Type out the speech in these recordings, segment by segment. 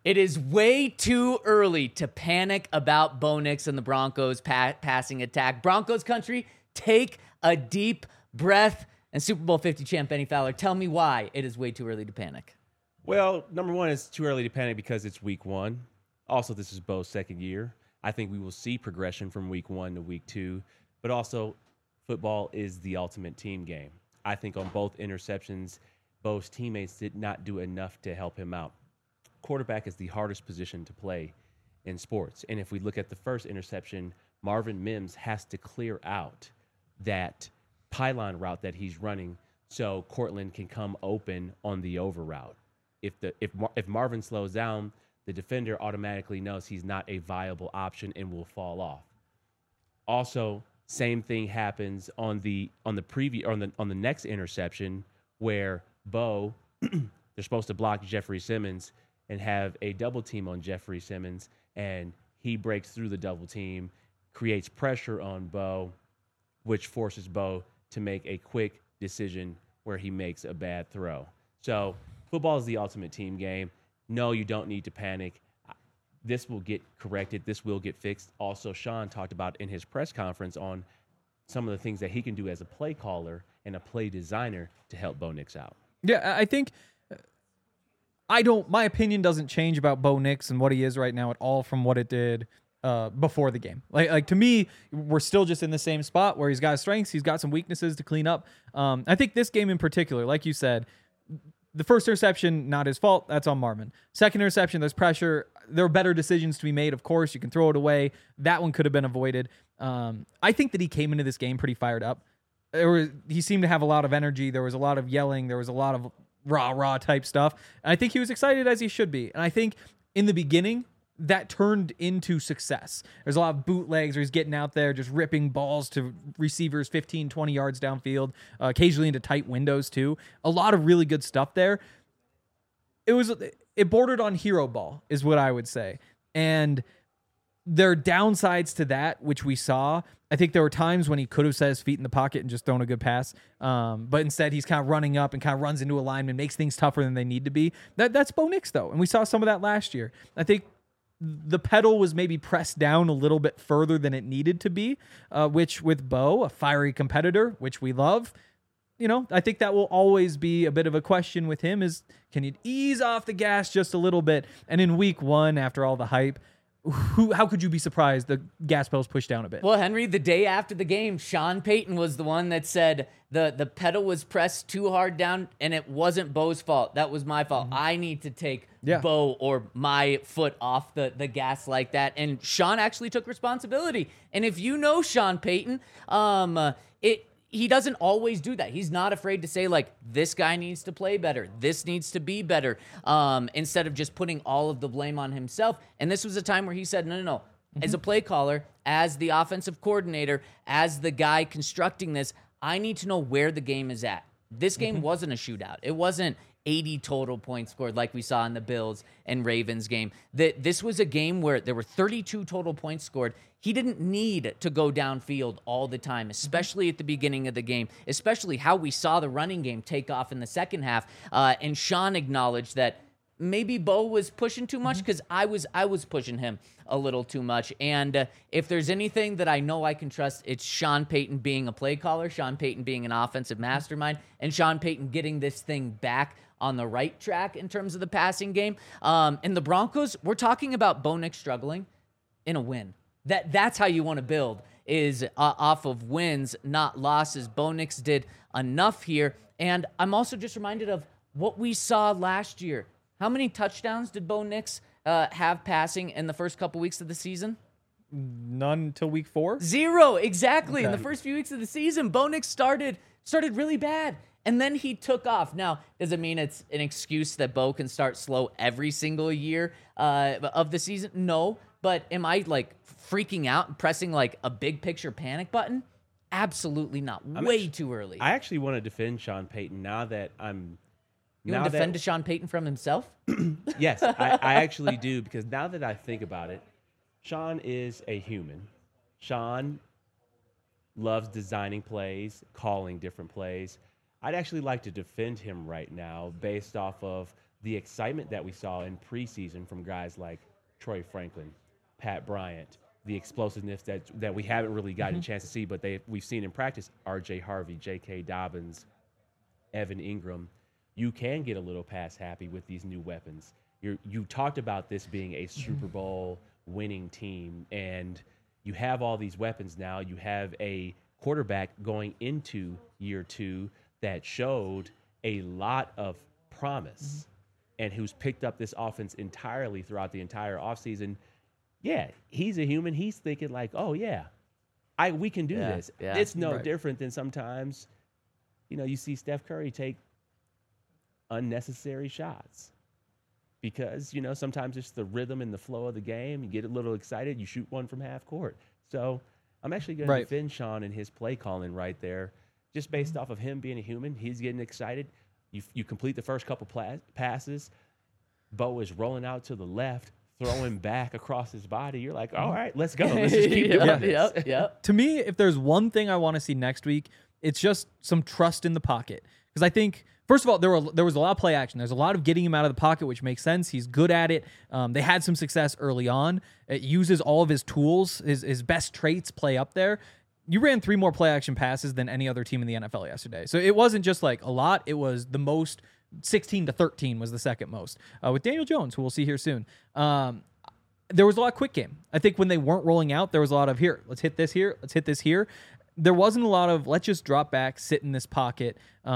It is way too early to panic about Bo Nix and the Broncos passing attack. Broncos country, take a deep breath. And Super Bowl 50 champ Benny Fowler, tell me why it is way too early to panic. Well, number one, it's too early to panic because it's week one. Also, this is Bo's second year. I think we will see progression from week one to week two. But also, football is the ultimate team game. I think on both interceptions, Bo's teammates did not do enough to help him out. Quarterback is the hardest position to play in sports. And if we look at the first interception, Marvin Mims has to clear out that pylon route that he's running so Cortland can come open on the over route. If Marvin slows down, the defender automatically knows he's not a viable option and will fall off. Also, same thing happens on the next interception where Bo they're supposed to block Jeffrey Simmons and have a double team on Jeffrey Simmons, and he breaks through the double team, creates pressure on Bo, which forces Bo to make a quick decision where he makes a bad throw. So football is the ultimate team game. No, you don't need to panic. This will get corrected. This will get fixed. Also, Sean talked about in his press conference on some of the things that he can do as a play caller and a play designer to help Bo Nix out. Yeah, I think my opinion doesn't change about Bo Nix and what he is right now at all from what it did before the game. Like to me, we're still just in the same spot where he's got strengths, he's got some weaknesses to clean up. I think this game in particular, like you said, the first interception, not his fault. That's on Marvin. Second interception, there's pressure. There are better decisions to be made. Of course, you can throw it away. That one could have been avoided. I think that he came into this game pretty fired up. He seemed to have a lot of energy. There was a lot of yelling. There was a lot of rah type stuff. And I think he was excited as he should be. And I think in the beginning, that turned into success. There's a lot of bootlegs where he's getting out there, just ripping balls to receivers 15, 20 yards downfield, occasionally into tight windows too. A lot of really good stuff there. It bordered on hero ball is what I would say. And there are downsides to that, which we saw. I think there were times when he could have set his feet in the pocket and just thrown a good pass. But instead, he's kind of running up and kind of runs into a lineman, makes things tougher than they need to be. That's Bo Nix, though. And we saw some of that last year. I think the pedal was maybe pressed down a little bit further than it needed to be, which with Bo, a fiery competitor, which we love, I think that will always be a bit of a question with him is, can you ease off the gas just a little bit? And in week one, after all the hype, how could you be surprised the gas pedal's pushed down a bit? Well, Henry, the day after the game, Sean Payton was the one that said the pedal was pressed too hard down, and it wasn't Bo's fault. That was my fault. I need to take Bo or my foot off the gas like that. And Sean actually took responsibility. And if you know Sean Payton, he doesn't always do that. He's not afraid to say, like, this guy needs to play better. This needs to be better, instead of just putting all of the blame on himself. And this was a time where he said, no. As a play caller, as the offensive coordinator, as the guy constructing this, I need to know where the game is at. This game wasn't a shootout. It wasn't 80 total points scored like we saw in the Bills and Ravens game. This was a game where there were 32 total points scored. He didn't need to go downfield all the time, especially at the beginning of the game, especially how we saw the running game take off in the second half. And Sean acknowledged that maybe Bo was pushing too much because I was pushing him a little too much. And if there's anything that I know I can trust, it's Sean Payton being a play caller, Sean Payton being an offensive mastermind, and Sean Payton getting this thing back on the right track in terms of the passing game. And the Broncos, we're talking about Bo Nix struggling in a win. That's how you want to build, is off of wins, not losses. Bo Nix did enough here. And I'm also just reminded of what we saw last year. How many touchdowns did Bo Nix have passing in the first couple weeks of the season? None until week 4? 0, exactly. Okay. In the first few weeks of the season, Bo Nix started really bad. And then he took off. Now, does it mean it's an excuse that Bo can start slow every single year of the season? No. But am I like freaking out and pressing like a big picture panic button? Absolutely not. Way too early. I actually want to defend Sean Payton now that You want to defend Sean Payton from himself? Yes, I actually do, because now that I think about it, Sean is a human. Sean loves designing plays, calling different plays. I'd actually like to defend him right now based off of the excitement that we saw in preseason from guys like Troy Franklin, Pat Bryant, the explosiveness that we haven't really gotten a chance to see, but we've seen in practice, R.J. Harvey, J.K. Dobbins, Evan Ingram, you can get a little pass happy with these new weapons. You talked about this being a Super Bowl winning team, and you have all these weapons now. You have a quarterback going into year 2 that showed a lot of promise and who's picked up this offense entirely throughout the entire offseason. Yeah, he's a human. He's thinking like, oh, yeah, we can do this. Yeah. It's no different than sometimes, you see Steph Curry take unnecessary shots because, sometimes it's the rhythm and the flow of the game. You get a little excited, you shoot one from half court. So I'm actually going to defend Sean and his play calling right there, just based off of him being a human. He's getting excited. You complete the first couple passes. Bo is rolling out to the left, throwing back across his body. You're like, all right, let's go. Let's just keep doing this. Yep. To me, if there's one thing I want to see next week, it's just some trust in the pocket. Because I think, first of all, there was a lot of play action. There's a lot of getting him out of the pocket, which makes sense. He's good at it. They had some success early on. It uses all of his tools, his best traits play up there. You ran 3 more play action passes than any other team in the NFL yesterday. So it wasn't just like a lot. It was the most. 16-13 was the second most with Daniel Jones, who we'll see here soon. There was a lot of quick game. I think when they weren't rolling out, there was a lot of here, let's hit this here, let's hit this here. There wasn't a lot of let's just drop back, sit in this pocket.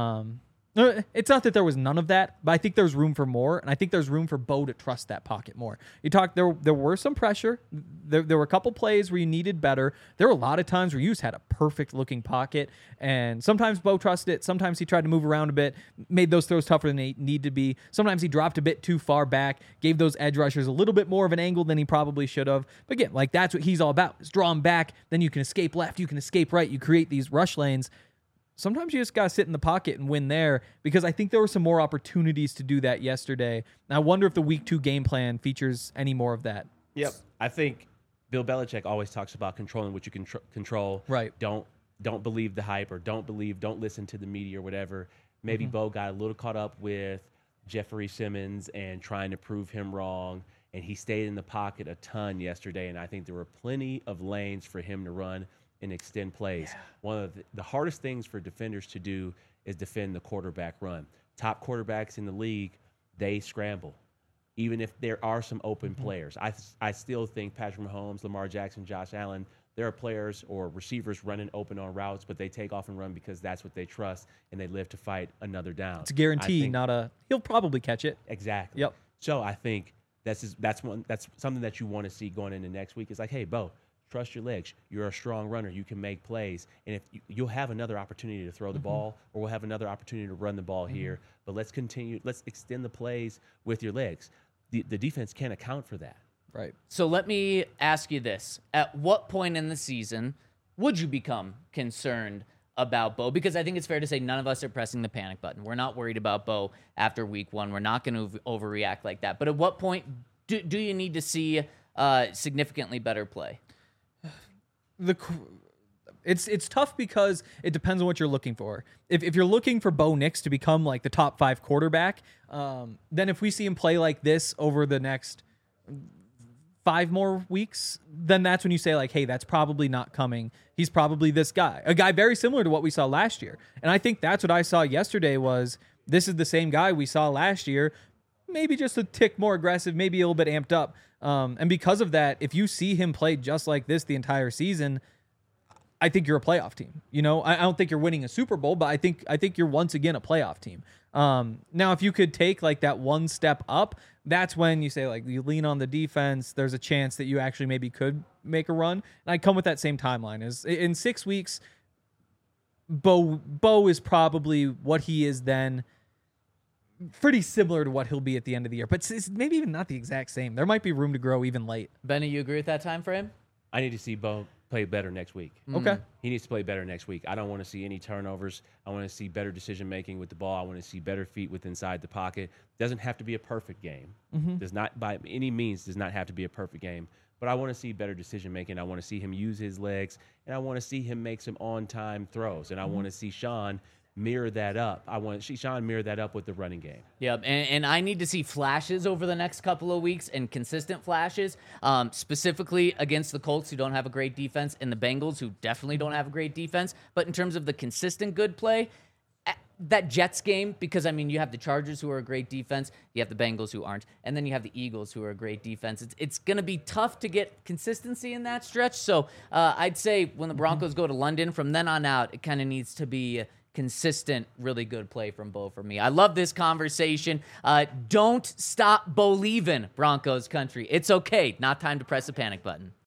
It's not that there was none of that, but I think there's room for more, and I think there's room for Bo to trust that pocket more. You talked there were some pressure. There were a couple plays where you needed better. There were a lot of times where you just had a perfect looking pocket, and sometimes Bo trusted it. Sometimes he tried to move around a bit, made those throws tougher than they need to be. Sometimes he dropped a bit too far back, gave those edge rushers a little bit more of an angle than he probably should have. But again, like that's what he's all about: is draw him back, then you can escape left, you can escape right, you create these rush lanes. Sometimes you just got to sit in the pocket and win there, because I think there were some more opportunities to do that yesterday. And I wonder if the week 2 game plan features any more of that. Yep. I think Bill Belichick always talks about controlling what you can control. Right. Don't believe the hype, or don't listen to the media or whatever. Maybe Bo got a little caught up with Jeffrey Simmons and trying to prove him wrong. And he stayed in the pocket a ton yesterday. And I think there were plenty of lanes for him to run and extend plays. Yeah. One of the hardest things for defenders to do is defend the quarterback run. Top quarterbacks in the league, they scramble. Even if there are some open players. I still think Patrick Mahomes, Lamar Jackson, Josh Allen, there are players or receivers running open on routes, but they take off and run because that's what they trust, and they live to fight another down. It's a guarantee, he'll probably catch it. Exactly. Yep. So I think that's something that you want to see going into next week. It's like, hey, Bo, trust your legs. You're a strong runner. You can make plays. And if you'll have another opportunity to throw the ball, or we'll have another opportunity to run the ball here. But let's extend the plays with your legs. The defense can't account for that. Right. So let me ask you this. At what point in the season would you become concerned about Bo? Because I think it's fair to say none of us are pressing the panic button. We're not worried about Bo after week 1. We're not going to overreact like that. But at what point do you need to see significantly better play? It's tough because it depends on what you're looking for. If you're looking for Bo Nix to become like the top 5 quarterback, then if we see him play like this over the next 5 more weeks, then that's when you say like, hey, that's probably not coming. He's probably this guy, a guy very similar to what we saw last year. And I think that's what I saw yesterday was this is the same guy we saw last year, maybe just a tick more aggressive, maybe a little bit amped up. And because of that, if you see him play just like this the entire season, I think you're a playoff team. I don't think you're winning a Super Bowl, but I think you're once again a playoff team. Now, if you could take like that one step up, that's when you say like you lean on the defense. There's a chance that you actually maybe could make a run. And I come with that same timeline. Is in 6 weeks, Bo is probably what he is then. Pretty similar to what he'll be at the end of the year, but it's maybe even not the exact same. There might be room to grow even late. Benny, you agree with that time frame? I need to see Bo play better next week. Okay. He needs to play better next week. I don't want to see any turnovers. I want to see better decision-making with the ball. I want to see better feet with inside the pocket. Doesn't have to be a perfect game. Does not, by any means, does not have to be a perfect game. But I want to see better decision-making. I want to see him use his legs, and I want to see him make some on-time throws. And I want to see Sean mirror that up. I want Sean mirror that up with the running game. Yep, and I need to see flashes over the next couple of weeks and consistent flashes, specifically against the Colts, who don't have a great defense, and the Bengals, who definitely don't have a great defense. But in terms of the consistent good play, that Jets game, because, I mean, you have the Chargers, who are a great defense. You have the Bengals, who aren't. And then you have the Eagles, who are a great defense. It's going to be tough to get consistency in that stretch. So I'd say when the Broncos go to London, from then on out, it kind of needs to be consistent, really good play from Bo for me. I love this conversation. Don't stop Bo-leavin', Broncos country. It's okay. Not time to press the panic button.